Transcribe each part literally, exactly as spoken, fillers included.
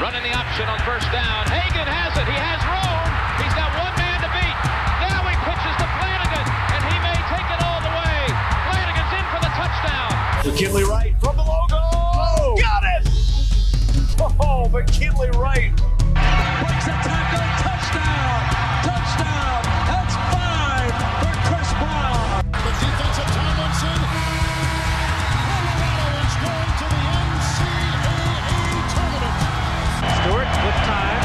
Running the option on first down. Hagan has it. He has room. He's got one man to beat. Now he pitches to Flanagan, and he may take it all the way. Flanagan's in for the touchdown. McKinley Wright from the logo. Oh, got it! Oh, McKinley Wright. Breaks a tackle. Touchdown. Touchdown. That's five for Chris Brown. The defensive Tomlinson. Colorado is going to the N C double A tournament. Stewart with time.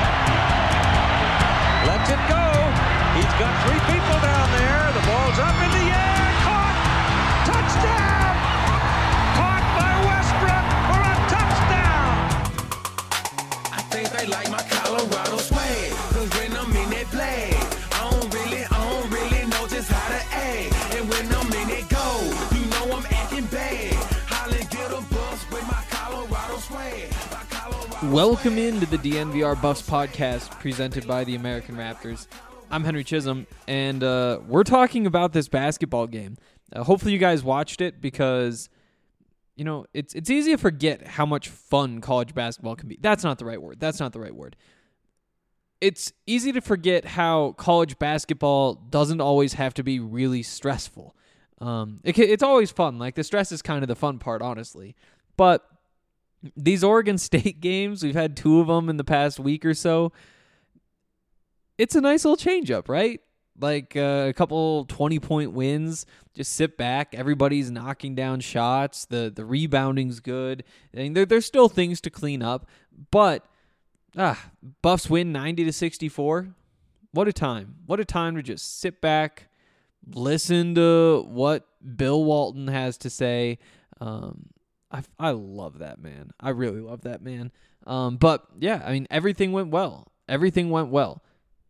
Lets it go. He's got three people down there. The ball's up in the air. Caught. Touchdown. Caught by Westbrook for a touchdown. I think they like my Colorado swag. Cause when I'm in that play, I don't really, I don't really know just how to act. And when I'm in it go, you know I'm acting bad. Holly get a bus with my Colorado swag. My Colorado Welcome into the D N V R Buffs podcast presented by the American Raptors. I'm Henry Chisholm, and uh, we're talking about this basketball game. Uh, hopefully you guys watched it because, you know, it's it's easy to forget how much fun college basketball can be. That's not the right word. That's not the right word. It's easy to forget how college basketball doesn't always have to be really stressful. Um, it, it's always fun. Like, the stress is kind of the fun part, honestly. But these Oregon State games, we've had two of them in the past week or so. It's a nice little change-up, right? Like uh, a couple twenty-point wins. Just sit back. Everybody's knocking down shots. The the rebounding's good. I mean, there, there's still things to clean up. But, ah, Buffs win ninety to sixty-four. What a time. What a time to just sit back, listen to what Bill Walton has to say. Um, I, I love that man. I really love that man. Um, but, yeah, I mean, everything went well. Everything went well.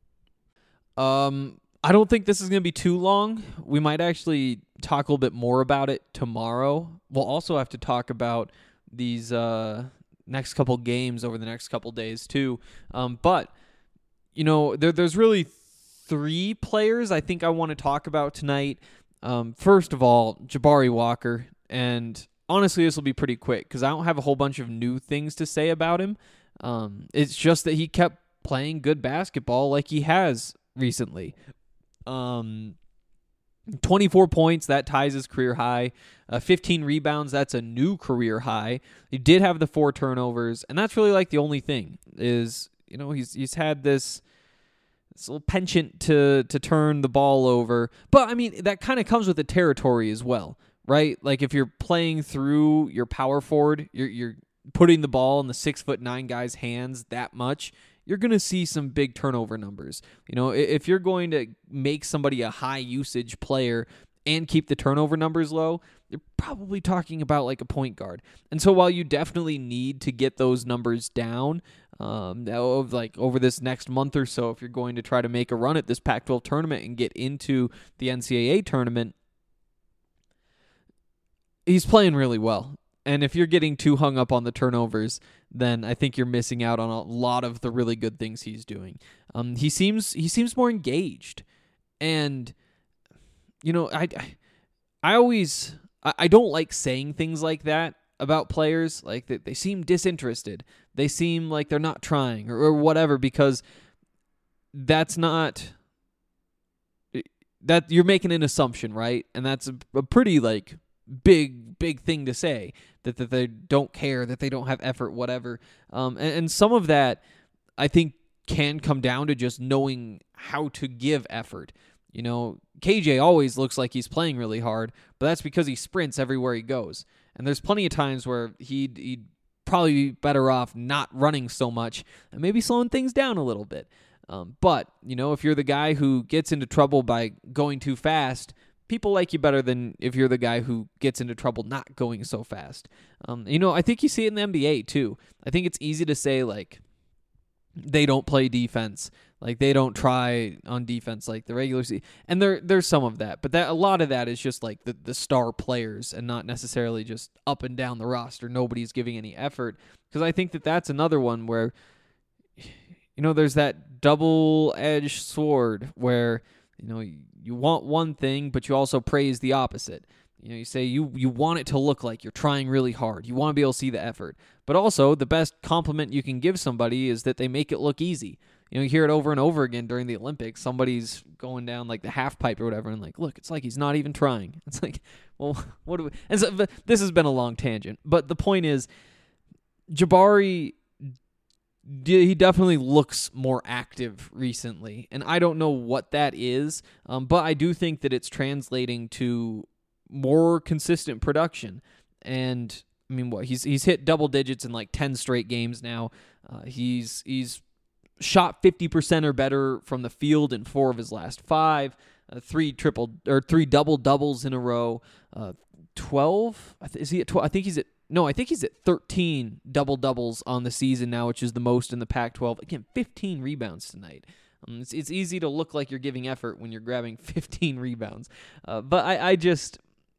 Um, I don't think this is going to be too long. We might actually talk a little bit more about it tomorrow. We'll also have to talk about these uh, next couple games over the next couple days too. Um, but, you know, there, there's really three players I think I want to talk about tonight. Um, first of all, Jabari Walker. And honestly, this will be pretty quick because I don't have a whole bunch of new things to say about him. Um, it's just that he kept playing good basketball like he has recently. Um, twenty-four points, that ties his career high. Uh, fifteen rebounds, that's a new career high. He did have the four turnovers, and that's really like the only thing is, you know, he's he's had this, this little penchant to to turn the ball over. But I mean, that kind of comes with the territory as well, right? Like if you're playing through your power forward, you're you're putting the ball in the six foot nine guy's hands that much, you're going to see some big turnover numbers. You know, if you're going to make somebody a high usage player and keep the turnover numbers low, you're probably talking about like a point guard. And so while you definitely need to get those numbers down, um, of like over this next month or so, if you're going to try to make a run at this Pac twelve tournament and get into the N C double A tournament, he's playing really well. And if you're getting too hung up on the turnovers, then I think you're missing out on a lot of the really good things he's doing. Um, he seems he seems more engaged, and you know, I I always I, I don't like saying things like that about players. Like they, they seem disinterested, they seem like they're not trying or, or whatever, because that's not that you're making an assumption, right? And that's a, a pretty like big big thing to say, that, that they don't care, that they don't have effort, whatever. Um, and, and some of that, I think, can come down to just knowing how to give effort. You know, K J always looks like he's playing really hard, but that's because he sprints everywhere he goes. And there's plenty of times where he'd, he'd probably be better off not running so much and maybe slowing things down a little bit. Um, but, you know, if you're the guy who gets into trouble by going too fast, people like you better than if you're the guy who gets into trouble not going so fast. Um, you know, I think you see it in the N B A too. I think it's easy to say, like, they don't play defense, like they don't try on defense like the regular season. And there, there's some of that, but that a lot of that is just like the, the star players and not necessarily just up and down the roster. Nobody's giving any effort, because I think that that's another one where, you know, there's that double-edged sword where, you know, you want one thing, but you also praise the opposite. You know, you say you, you want it to look like you're trying really hard. You want to be able to see the effort. But also, the best compliment you can give somebody is that they make it look easy. You know, you hear it over and over again during the Olympics. Somebody's going down like the half pipe or whatever, and like, look, it's like he's not even trying. It's like, well, what do we? And so, this has been a long tangent, but the point is, Jabari, he definitely looks more active recently, and I don't know what that is, um, but I do think that it's translating to more consistent production. And I mean, what he's he's hit double digits in like ten straight games now. Uh, he's he's shot fifty percent or better from the field in four of his last five. Uh, three triple or three double doubles in a row. Uh, twelve is he at twelve? I think he's at no. I think he's at thirteen double doubles on the season now, which is the most in the Pac twelve. Again, fifteen rebounds tonight. Um, it's it's easy to look like you're giving effort when you're grabbing fifteen rebounds. Uh, but I I just.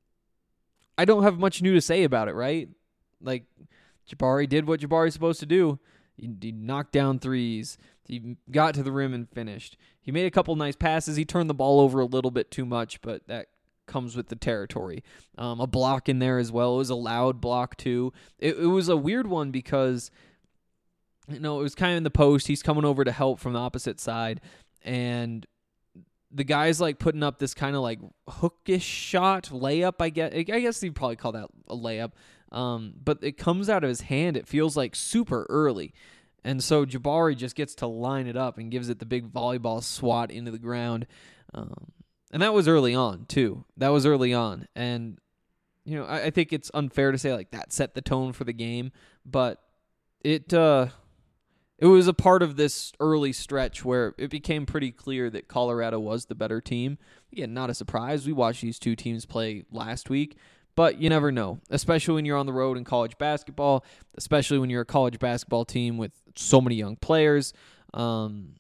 I don't have much new to say about it, right? Like, Jabari did what Jabari's supposed to do. He, he knocked down threes. He got to the rim and finished. He made a couple nice passes. He turned the ball over a little bit too much, but that comes with the territory. Um, a block in there as well. It was a loud block, too. It, it was a weird one because, you know, it was kind of in the post. He's coming over to help from the opposite side, and the guy's like putting up this kind of like hookish shot, layup, I guess. I guess you'd probably call that a layup. Um, but it comes out of his hand. It feels like super early. And so Jabari just gets to line it up and gives it the big volleyball swat into the ground. Um, and that was early on, too. That was early on. And, you know, I, I think it's unfair to say like that set the tone for the game. But it... Uh, It was a part of this early stretch where it became pretty clear that Colorado was the better team. Again, not a surprise. We watched these two teams play last week, but you never know, especially when you're on the road in college basketball, especially when you're a college basketball team with so many young players. Um,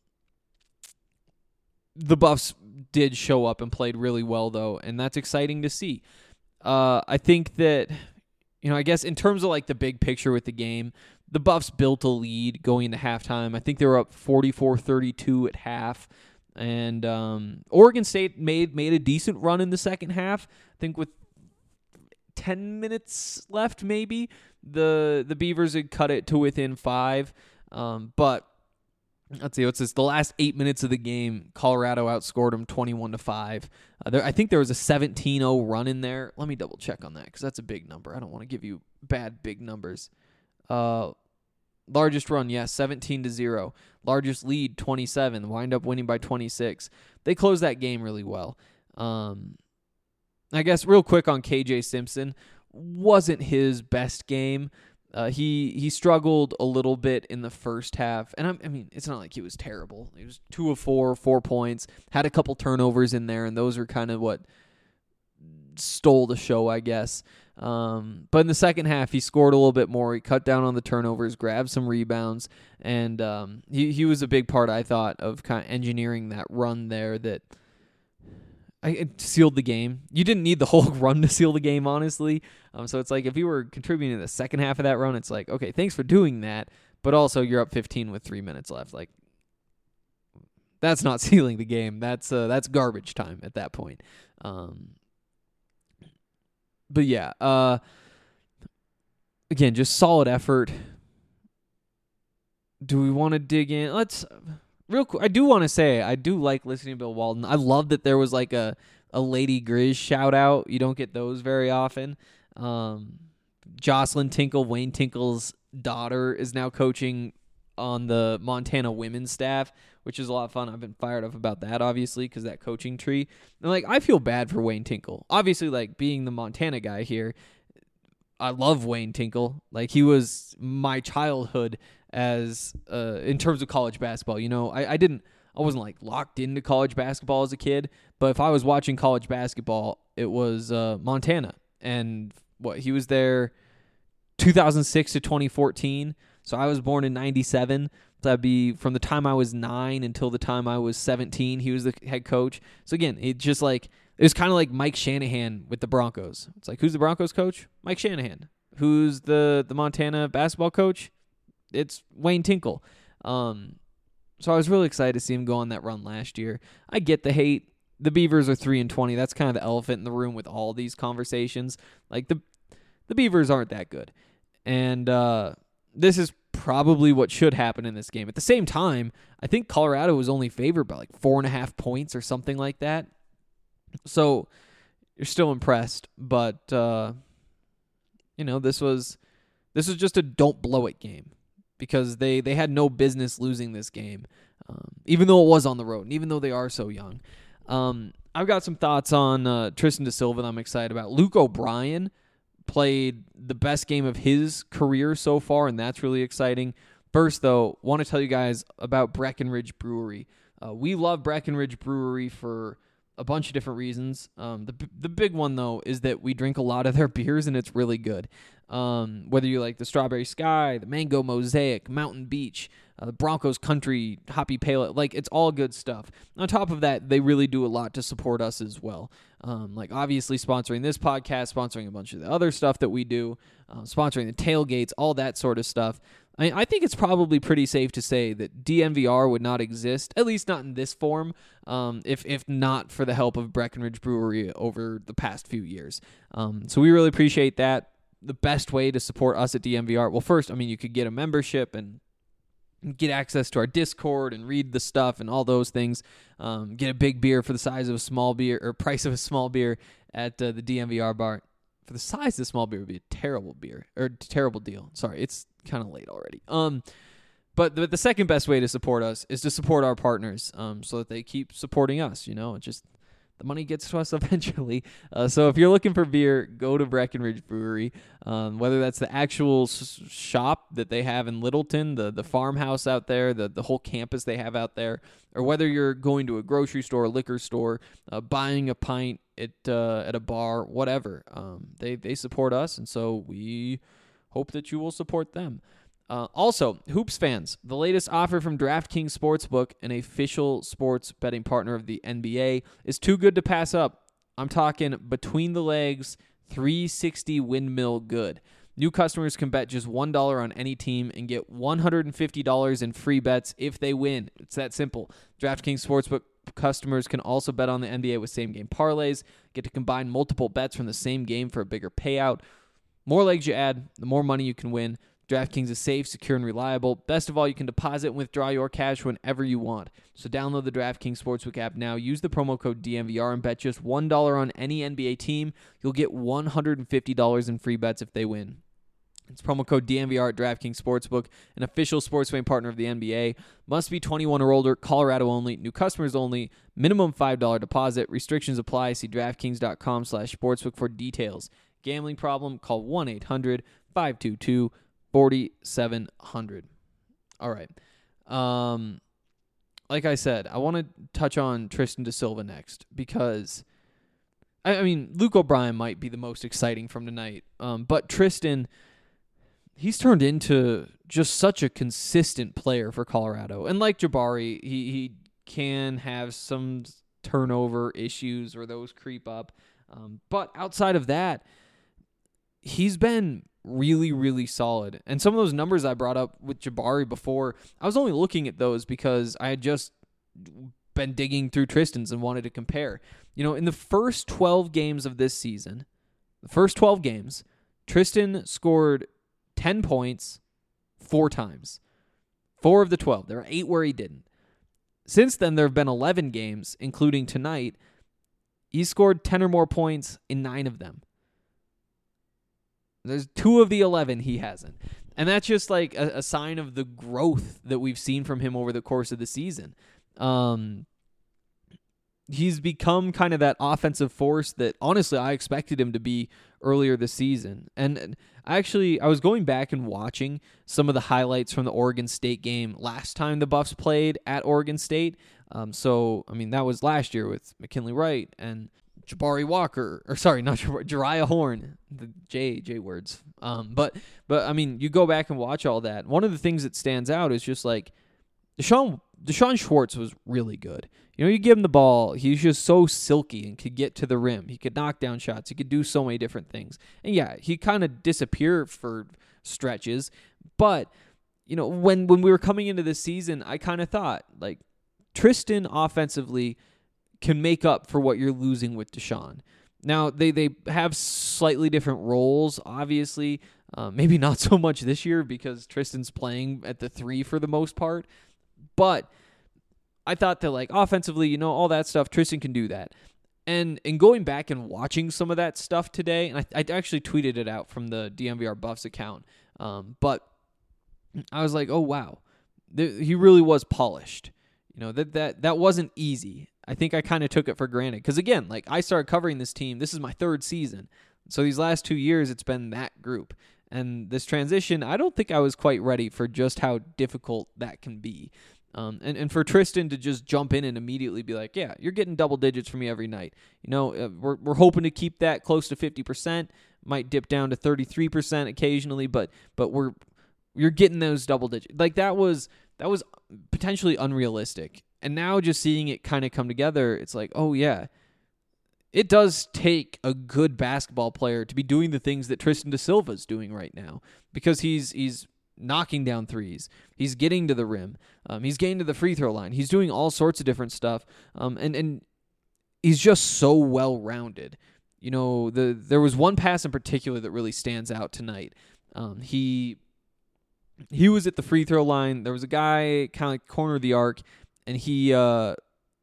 the Buffs did show up and played really well, though, and that's exciting to see. Uh, I think that, you know, I guess in terms of like the big picture with the game, the Buffs built a lead going into halftime. I think they were up forty-four thirty-two at half. And um, Oregon State made made a decent run in the second half. I think with ten minutes left, maybe, the the Beavers had cut it to within five. Um, but let's see, what's this? The last eight minutes of the game, Colorado outscored them twenty-one to five. Uh, there, I think there was a seventeen oh run in there. Let me double check on that because that's a big number. I don't want to give you bad big numbers. Uh, largest run, yes, seventeen to zero. Largest lead, twenty-seven. Wind up winning by twenty-six. They closed that game really well. Um, I guess real quick on K J Simpson, wasn't his best game. Uh, he he struggled a little bit in the first half, and I, I mean it's not like he was terrible. He was two of four, four points, had a couple turnovers in there, and those are kind of what stole the show, I guess. Um, but in the second half, he scored a little bit more. He cut down on the turnovers, grabbed some rebounds, and um, he he was a big part, I thought, of kind of engineering that run there that I, it sealed the game. You didn't need the whole run to seal the game, honestly. Um, so it's like if you were contributing to the second half of that run, it's like, okay, thanks for doing that, but also you're up fifteen with three minutes left. Like, that's not sealing the game. That's uh, that's garbage time at that point. Um, but yeah, uh, again, just solid effort. Do we want to dig in? Let's real quick. I do want to say I do like listening to Bill Walton. I love that there was like a a Lady Grizz shout out. You don't get those very often. Um, Jocelyn Tinkle, Wayne Tinkle's daughter, is now coaching on the Montana women's staff, which is a lot of fun. I've been fired up about that, obviously, because that coaching tree. And like, I feel bad for Wayne Tinkle. Obviously, like being the Montana guy here, I love Wayne Tinkle. Like, he was my childhood as uh, in terms of college basketball. You know, I, I didn't, I wasn't like locked into college basketball as a kid, but if I was watching college basketball, it was uh, Montana. And what, he was there two thousand six to twenty fourteen. So I was born in ninety-seven. So that'd be from the time I was nine until the time I was seventeen. He was the head coach. So again, it just like, it was kind of like Mike Shanahan with the Broncos. It's like, who's the Broncos coach? Mike Shanahan. Who's the, the Montana basketball coach? It's Wayne Tinkle. Um, so I was really excited to see him go on that run last year. I get the hate. the Beavers are three and twenty. That's kind of the elephant in the room with all these conversations. Like the the Beavers aren't that good, and uh, this is probably what should happen in this game. At the same time, I think Colorado was only favored by like four and a half points or something like that. So you're still impressed, but uh, you know this was this was just a don't blow it game because they they had no business losing this game, um, even though it was on the road and even though they are so young. Um, I've got some thoughts on uh, Tristan da Silva that I'm excited about. Luke O'Brien played the best game of his career so far, and that's really exciting. First, though, want to tell you guys about Breckenridge Brewery. Uh, we love Breckenridge Brewery for a bunch of different reasons. Um, the the big one, though, is that we drink a lot of their beers, and it's really good. Um, whether you like the Strawberry Sky, the Mango Mosaic, Mountain Beach, uh, the Broncos Country, Hoppy Pale Ale, like it's all good stuff. On top of that, they really do a lot to support us as well. Um, like obviously sponsoring this podcast, sponsoring a bunch of the other stuff that we do, uh, sponsoring the tailgates, all that sort of stuff. I, mean, I think it's probably pretty safe to say that D N V R would not exist, at least not in this form, um, if if not for the help of Breckenridge Brewery over the past few years. Um, so we really appreciate that. The best way to support us at D N V R, well, first, I mean, you could get a membership and get access to our Discord and read the stuff and all those things. Um, get a big beer for the size of a small beer or price of a small beer at uh, the D N V R bar. For the size of the small beer would be a terrible beer or terrible deal. Sorry, it's kind of late already. Um, but the, the second best way to support us is to support our partners, um, so that they keep supporting us. You know, it just the money gets to us eventually. Uh, so if you're looking for beer, go to Breckenridge Brewery. Um, whether that's the actual s- shop that they have in Littleton, the the farmhouse out there, the the whole campus they have out there, or whether you're going to a grocery store, a liquor store, uh, buying a pint at uh, at a bar, whatever. Um, they they support us, and so we hope that you will support them. Uh, also, Hoops fans, the latest offer from DraftKings Sportsbook, an official sports betting partner of the N B A, is too good to pass up. I'm talking between the legs, three sixty windmill good. New customers can bet just one dollar on any team and get one hundred fifty dollars in free bets if they win. It's that simple. DraftKings Sportsbook customers can also bet on the N B A with same-game parlays, get to combine multiple bets from the same game for a bigger payout. More legs you add, the more money you can win. DraftKings is safe, secure, and reliable. Best of all, you can deposit and withdraw your cash whenever you want. So download the DraftKings Sportsbook app now. Use the promo code D N V R and bet just one dollar on any N B A team. You'll get one hundred fifty dollars in free bets if they win. It's promo code D N V R at DraftKings Sportsbook, an official sports betting partner of the N B A. Must be twenty-one or older, Colorado only, new customers only, minimum five dollars deposit. Restrictions apply. See DraftKings.com slash sportsbook for details. Gambling problem? Call one eight hundred five two two forty-seven hundred. All right. Um, like I said, I want to touch on Tristan da Silva next because, I, I mean, Luke O'Brien might be the most exciting from tonight, um, but Tristan, he's turned into just such a consistent player for Colorado. And like Jabari, he, he can have some turnover issues or those creep up. Um, but outside of that, he's been really, really solid. And some of those numbers I brought up with Jabari before, I was only looking at those because I had just been digging through Tristan's and wanted to compare. You know, in the first twelve games of this season, the first twelve games, Tristan scored ten points four times. Four of the twelve. There are eight where he didn't. Since then, there have been eleven games, including tonight. He scored ten or more points in nine of them. There's two of the eleven he hasn't. And that's just like a, a sign of the growth that we've seen from him over the course of the season. Um, he's become kind of that offensive force that, honestly, I expected him to be earlier this season. And, and actually, I was going back and watching some of the highlights from the Oregon State game last time the Buffs played at Oregon State. Um, so, I mean, that was last year with McKinley Wright and Jabari Walker, or sorry, not Jabari, Jariah Horn, the J, J words. Um, but, but I mean, you go back and watch all that. One of the things that stands out is just like Deshaun, Deshaun Schwartz was really good. You know, you give him the ball, he's just so silky and could get to the rim. He could knock down shots. He could do so many different things. And yeah, he kind of disappeared for stretches. But, you know, when, when we were coming into this season, I kind of thought, like, Tristan offensively can make up for what you're losing with Deshaun. Now, they, they have slightly different roles, obviously. Uh, maybe not so much this year because Tristan's playing at the three for the most part. But I thought that, like, offensively, you know, all that stuff, Tristan can do that. And in going back and watching some of that stuff today, and I, I actually tweeted it out from the D M V R Buffs account, um, but I was like, oh, wow, Th- he really was polished. You know, that that that wasn't easy. I think I kind of took it for granted. Because, again, like, I started covering this team. This is my third season. So these last two years, it's been that group. And this transition, I don't think I was quite ready for just how difficult that can be. Um, and, and for Tristan to just jump in and immediately be like, yeah, you're getting double digits from me every night. You know, uh, we're we're hoping to keep that close to fifty percent. Might dip down to thirty-three percent occasionally, but but we're you're getting those double digits. Like, that was that was potentially unrealistic. And now just seeing it kind of come together, it's like, oh, yeah, it does take a good basketball player to be doing the things that Tristan da Silva is doing right now, because he's he's knocking down threes. He's getting to the rim. Um, he's getting to the free throw line. He's doing all sorts of different stuff. Um, and, and he's just so well-rounded. You know, the there was one pass in particular that really stands out tonight. Um, he he was at the free throw line. There was a guy kind of like corner of the arc, and he uh,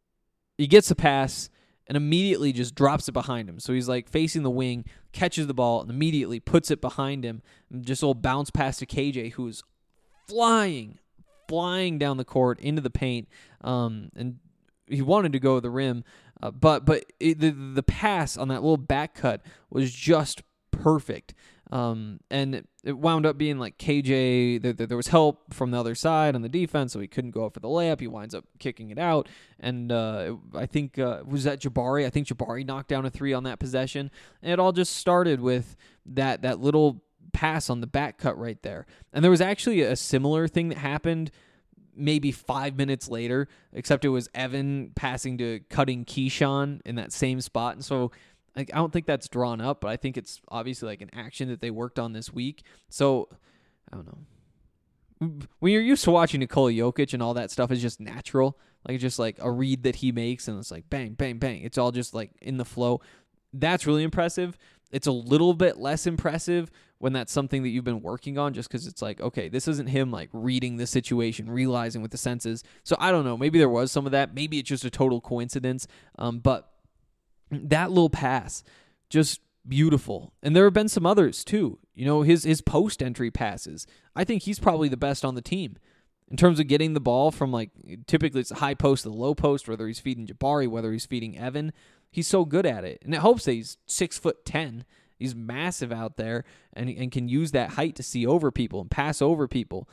he gets a pass and immediately just drops it behind him. So he's like facing the wing, catches the ball, and immediately puts it behind him. And just a little bounce pass to K J, who is flying, flying down the court into the paint. Um, and he wanted to go to the rim, uh, but but it, the the pass on that little back cut was just perfect. Um, and it, it wound up being like K J, there, there was help from the other side on the defense, so he couldn't go up for the layup. He winds up kicking it out. And uh, I think, uh, was that Jabari? I think Jabari knocked down a three on that possession. And it all just started with that that little pass on the back cut right there. And there was actually a similar thing that happened maybe five minutes later, except it was Evan passing to cutting Keyshawn in that same spot. And so Like, I don't think that's drawn up, but I think it's obviously like an action that they worked on this week. So, I don't know. When you're used to watching Nikola Jokic and all that stuff is just natural, like it's just like a read that he makes and it's like bang, bang, bang. It's all just like in the flow. That's really impressive. It's a little bit less impressive when that's something that you've been working on, just because it's like, okay, this isn't him like reading the situation, realizing with the senses. So I don't know. Maybe there was some of that. Maybe it's just a total coincidence. Um, but that little pass, just beautiful. And there have been some others too. You know, his his post entry passes. I think he's probably the best on the team in terms of getting the ball from, like, typically it's the high post to the low post, whether he's feeding Jabari, whether he's feeding Evan. He's so good at it. And it helps that he's six foot ten. He's massive out there and, and can use that height to see over people and pass over people.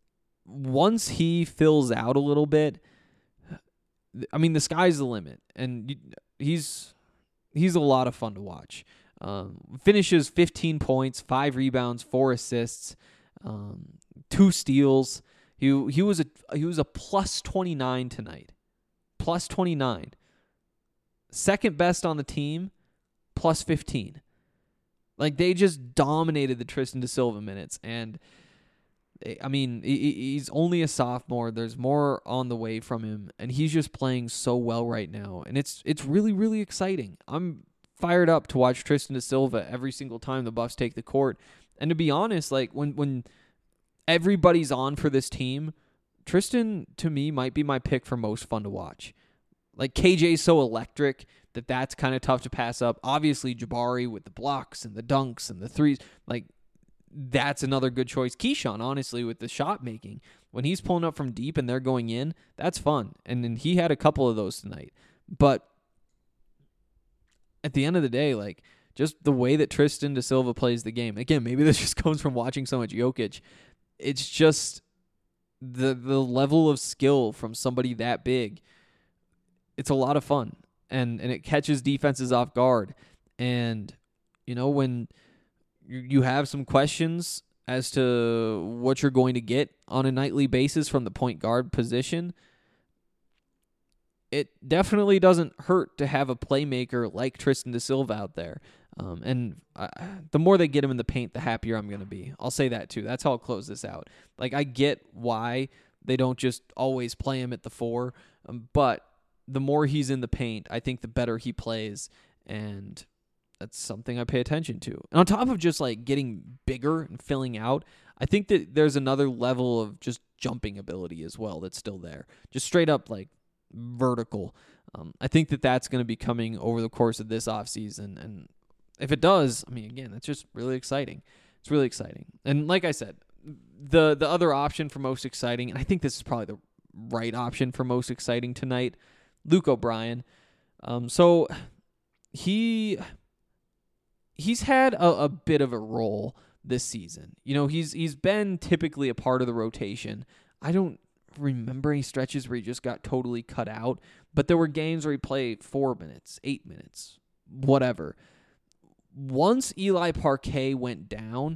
Once he fills out a little bit, I mean, the sky's the limit. And he's he's a lot of fun to watch. Um, finishes fifteen points, five rebounds, four assists, um, two steals. He he was a he was a plus twenty-nine tonight. Plus twenty-nine. Second best on the team, plus fifteen. Like, they just dominated the Tristan da Silva minutes. And, I mean, he's only a sophomore. There's more on the way from him. And he's just playing so well right now. And it's it's really, really exciting. I'm fired up to watch Tristan da Silva every single time the Buffs take the court. And to be honest, like, when, when everybody's on for this team, Tristan, to me, might be my pick for most fun to watch. Like, K J's so electric that that's kind of tough to pass up. Obviously, Jabari with the blocks and the dunks and the threes, like, that's another good choice. Keyshawn, honestly, with the shot making, when he's pulling up from deep and they're going in, that's fun. And then he had a couple of those tonight. But at the end of the day, like, just the way that Tristan da Silva plays the game. Again, maybe this just comes from watching so much Jokic. It's just the the level of skill from somebody that big. It's a lot of fun. And and it catches defenses off guard. And, you know, when you have some questions as to what you're going to get on a nightly basis from the point guard position, it definitely doesn't hurt to have a playmaker like Tristan da Silva out there. Um, and uh, the more they get him in the paint, the happier I'm going to be. I'll say that too. That's how I'll close this out. Like, I get why they don't just always play him at the four, um, but the more he's in the paint, I think the better he plays, and that's something I pay attention to. And on top of just like getting bigger and filling out, I think that there's another level of just jumping ability as well that's still there. Just straight up like vertical. Um, I think that that's going to be coming over the course of this offseason. And if it does, I mean, again, that's just really exciting. It's really exciting. And like I said, the the other option for most exciting, and I think this is probably the right option for most exciting tonight, Luke O'Brien. Um, so he he's had a, a bit of a role this season. You know, he's he's been typically a part of the rotation. I don't remember any stretches where he just got totally cut out, but there were games where he played four minutes, eight minutes, whatever. Once Eli Parquet went down,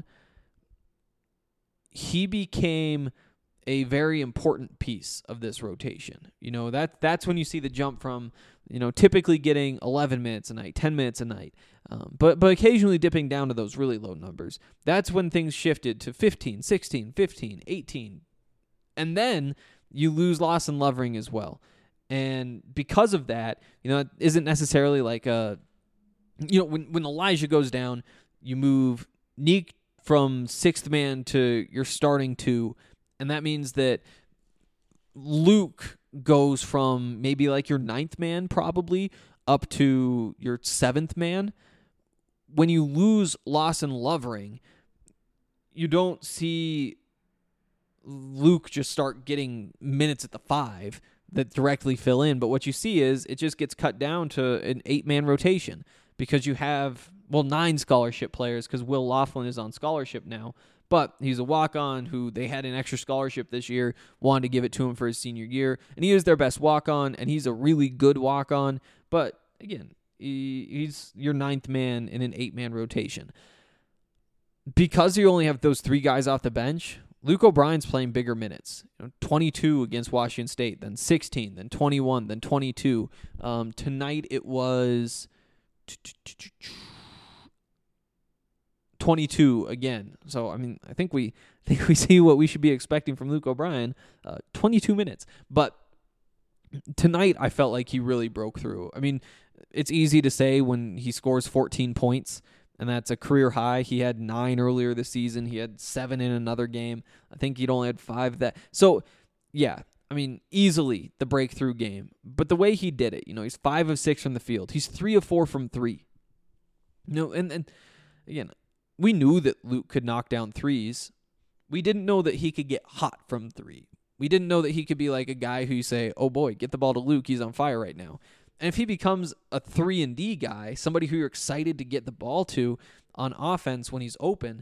he became a very important piece of this rotation. You know, that that's when you see the jump from, you know, typically getting eleven minutes a night, ten minutes a night, um, but but occasionally dipping down to those really low numbers. That's when things shifted to fifteen, sixteen, fifteen, eighteen. And then you lose Lawson Lovering as well. And because of that, you know, it isn't necessarily like a, you know, when, when Elijah goes down, you move Neek from sixth man to your starting two. And that means that Luke goes from maybe like your ninth man probably up to your seventh man. When you lose Lawson Lovering, you don't see Luke just start getting minutes at the five that directly fill in. But what you see is it just gets cut down to an eight-man rotation because you have, well, nine scholarship players because Will Laughlin is on scholarship now. But he's a walk-on who they had an extra scholarship this year, wanted to give it to him for his senior year. And he is their best walk-on, and he's a really good walk-on. But, again, he, he's your ninth man in an eight-man rotation. Because you only have those three guys off the bench, Luke O'Brien's playing bigger minutes. You know, twenty-two against Washington State, then sixteen, then twenty-one, then twenty-two. Um, tonight it was twenty-two again. So I mean, I think we I think we see what we should be expecting from Luke O'Brien. Uh, twenty-two minutes, but tonight I felt like he really broke through. I mean, it's easy to say when he scores fourteen points. And that's a career high. He had nine earlier this season. He had seven in another game. I think he'd only had five that. So, yeah, I mean, easily the breakthrough game. But the way he did it, you know, he's five of six from the field. He's three of four from three. You know, and, and again, we knew that Luke could knock down threes. We didn't know that he could get hot from three. We didn't know that he could be like a guy who you say, oh boy, get the ball to Luke. He's on fire right now. And if he becomes a three and D guy, somebody who you're excited to get the ball to on offense when he's open,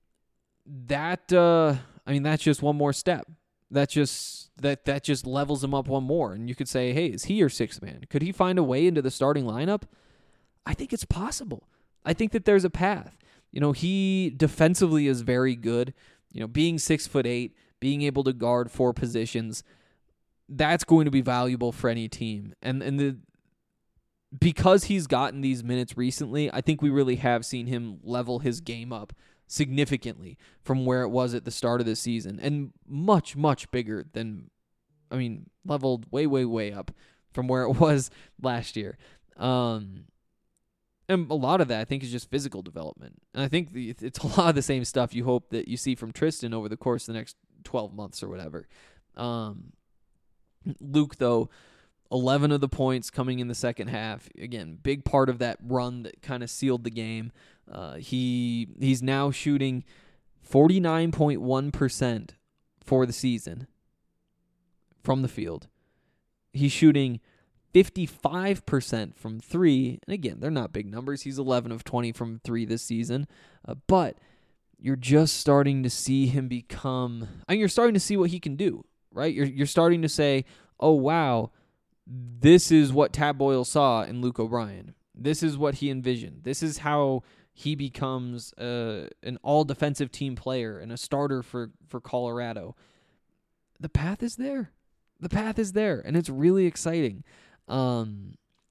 that uh, I mean that's just one more step. That just that that just levels him up one more. And you could say, hey, is he your sixth man? Could he find a way into the starting lineup? I think it's possible. I think that there's a path. You know, he defensively is very good. You know, being six foot eight, being able to guard four positions, that's going to be valuable for any team. And and the because he's gotten these minutes recently, I think we really have seen him level his game up significantly from where it was at the start of the season, and much, much bigger than, I mean, leveled way, way, way up from where it was last year. Um, and a lot of that, I think, is just physical development. And I think the, it's a lot of the same stuff you hope that you see from Tristan over the course of the next twelve months or whatever. Um, Luke, though, eleven of the points coming in the second half. Again, big part of that run that kind of sealed the game. Uh, he he's now shooting forty-nine point one percent for the season from the field. He's shooting fifty-five percent from three. And again, they're not big numbers. He's eleven of twenty from three this season. Uh, but you're just starting to see him become, I mean, you're starting to see what he can do, right? You're you're starting to say, oh, wow, this is what Tad Boyle saw in Luke O'Brien. This is what he envisioned. This is how he becomes uh, an all-defensive team player and a starter for, for Colorado. The path is there. The path is there, and it's really exciting. Um,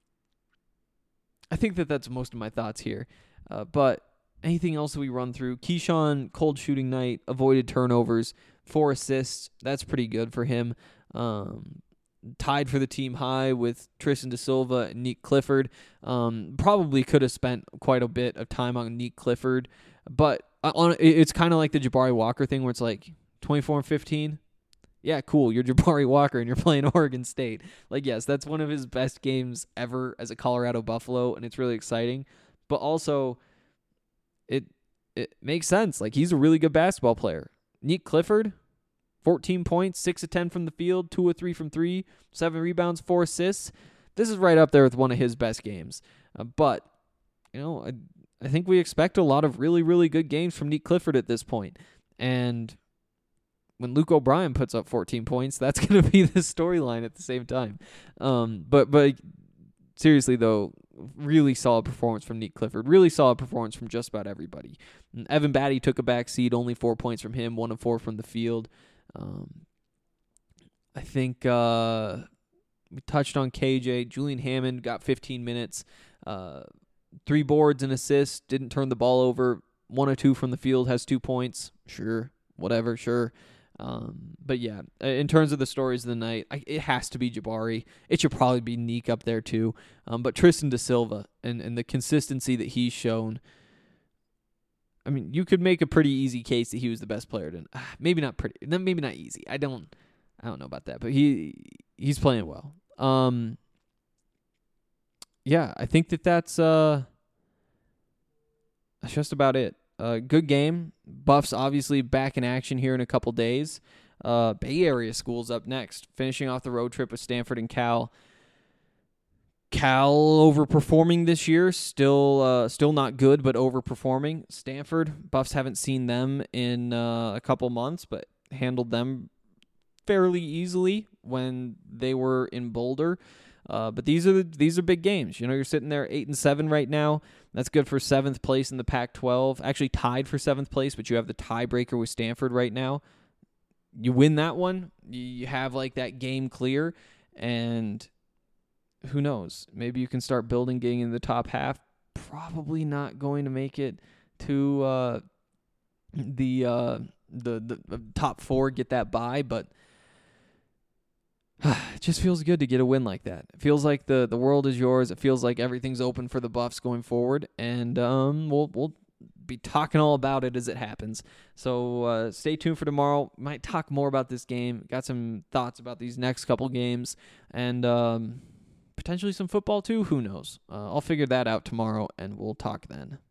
I think that that's most of my thoughts here. Uh, but anything else that we run through? Keyshawn, cold shooting night, avoided turnovers, four assists. That's pretty good for him. Um, tied for the team high with Tristan Da Silva and Nick Clifford. Um, probably could have spent quite a bit of time on Nick Clifford, but on it's kind of like the Jabari Walker thing where it's like twenty-four and fifteen. Yeah, cool. You're Jabari Walker and you're playing Oregon State. Like, yes, that's one of his best games ever as a Colorado Buffalo, and it's really exciting. But also, it it makes sense. Like, he's a really good basketball player. Nick Clifford, fourteen points, six of ten from the field, two of three from three, seven rebounds, four assists. This is right up there with one of his best games. Uh, but, you know, I, I think we expect a lot of really, really good games from Nick Clifford at this point. And when Luke O'Brien puts up fourteen points, that's going to be the storyline at the same time. Um, but but seriously, though, really solid performance from Nick Clifford. Really solid performance from just about everybody. And Evan Batty took a back seat, only four points from him, one of four from the field. Um, I think uh, we touched on K J. Julian Hammond got fifteen minutes, uh, three boards and assists, didn't turn the ball over, one or two from the field, has two points. Sure, whatever, sure. Um, but yeah, in terms of the stories of the night, I, it has to be Jabari. It should probably be Neek up there too. Um, but Tristan Da Silva and, and the consistency that he's shown. I mean, you could make a pretty easy case that he was the best player. To, uh, maybe not pretty, maybe not easy. I don't, I don't know about that, but he he's playing well. Um, yeah, I think that that's uh, that's just about it. Uh, good game. Buffs obviously back in action here in a couple days. Uh, Bay Area schools up next, finishing off the road trip with Stanford and Cal. Cal overperforming this year, still uh, still not good, but overperforming. Stanford, Buffs haven't seen them in uh, a couple months, but handled them fairly easily when they were in Boulder. Uh, but these are the, these are big games. You know, you're sitting there eight and seven right now. That's good for seventh place in the Pac twelve. Actually tied for seventh place, but you have the tiebreaker with Stanford right now. You win that one, you have like that game clear, and who knows? Maybe you can start building, getting in the top half. Probably not going to make it to uh, the, uh, the the top four, get that bye, but it just feels good to get a win like that. It feels like the, the world is yours. It feels like everything's open for the Buffs going forward, and um, we'll we'll be talking all about it as it happens. So uh, stay tuned for tomorrow. Might talk more about this game. Got some thoughts about these next couple games, and um, potentially some football too. Who knows? Uh, I'll figure that out tomorrow, and we'll talk then.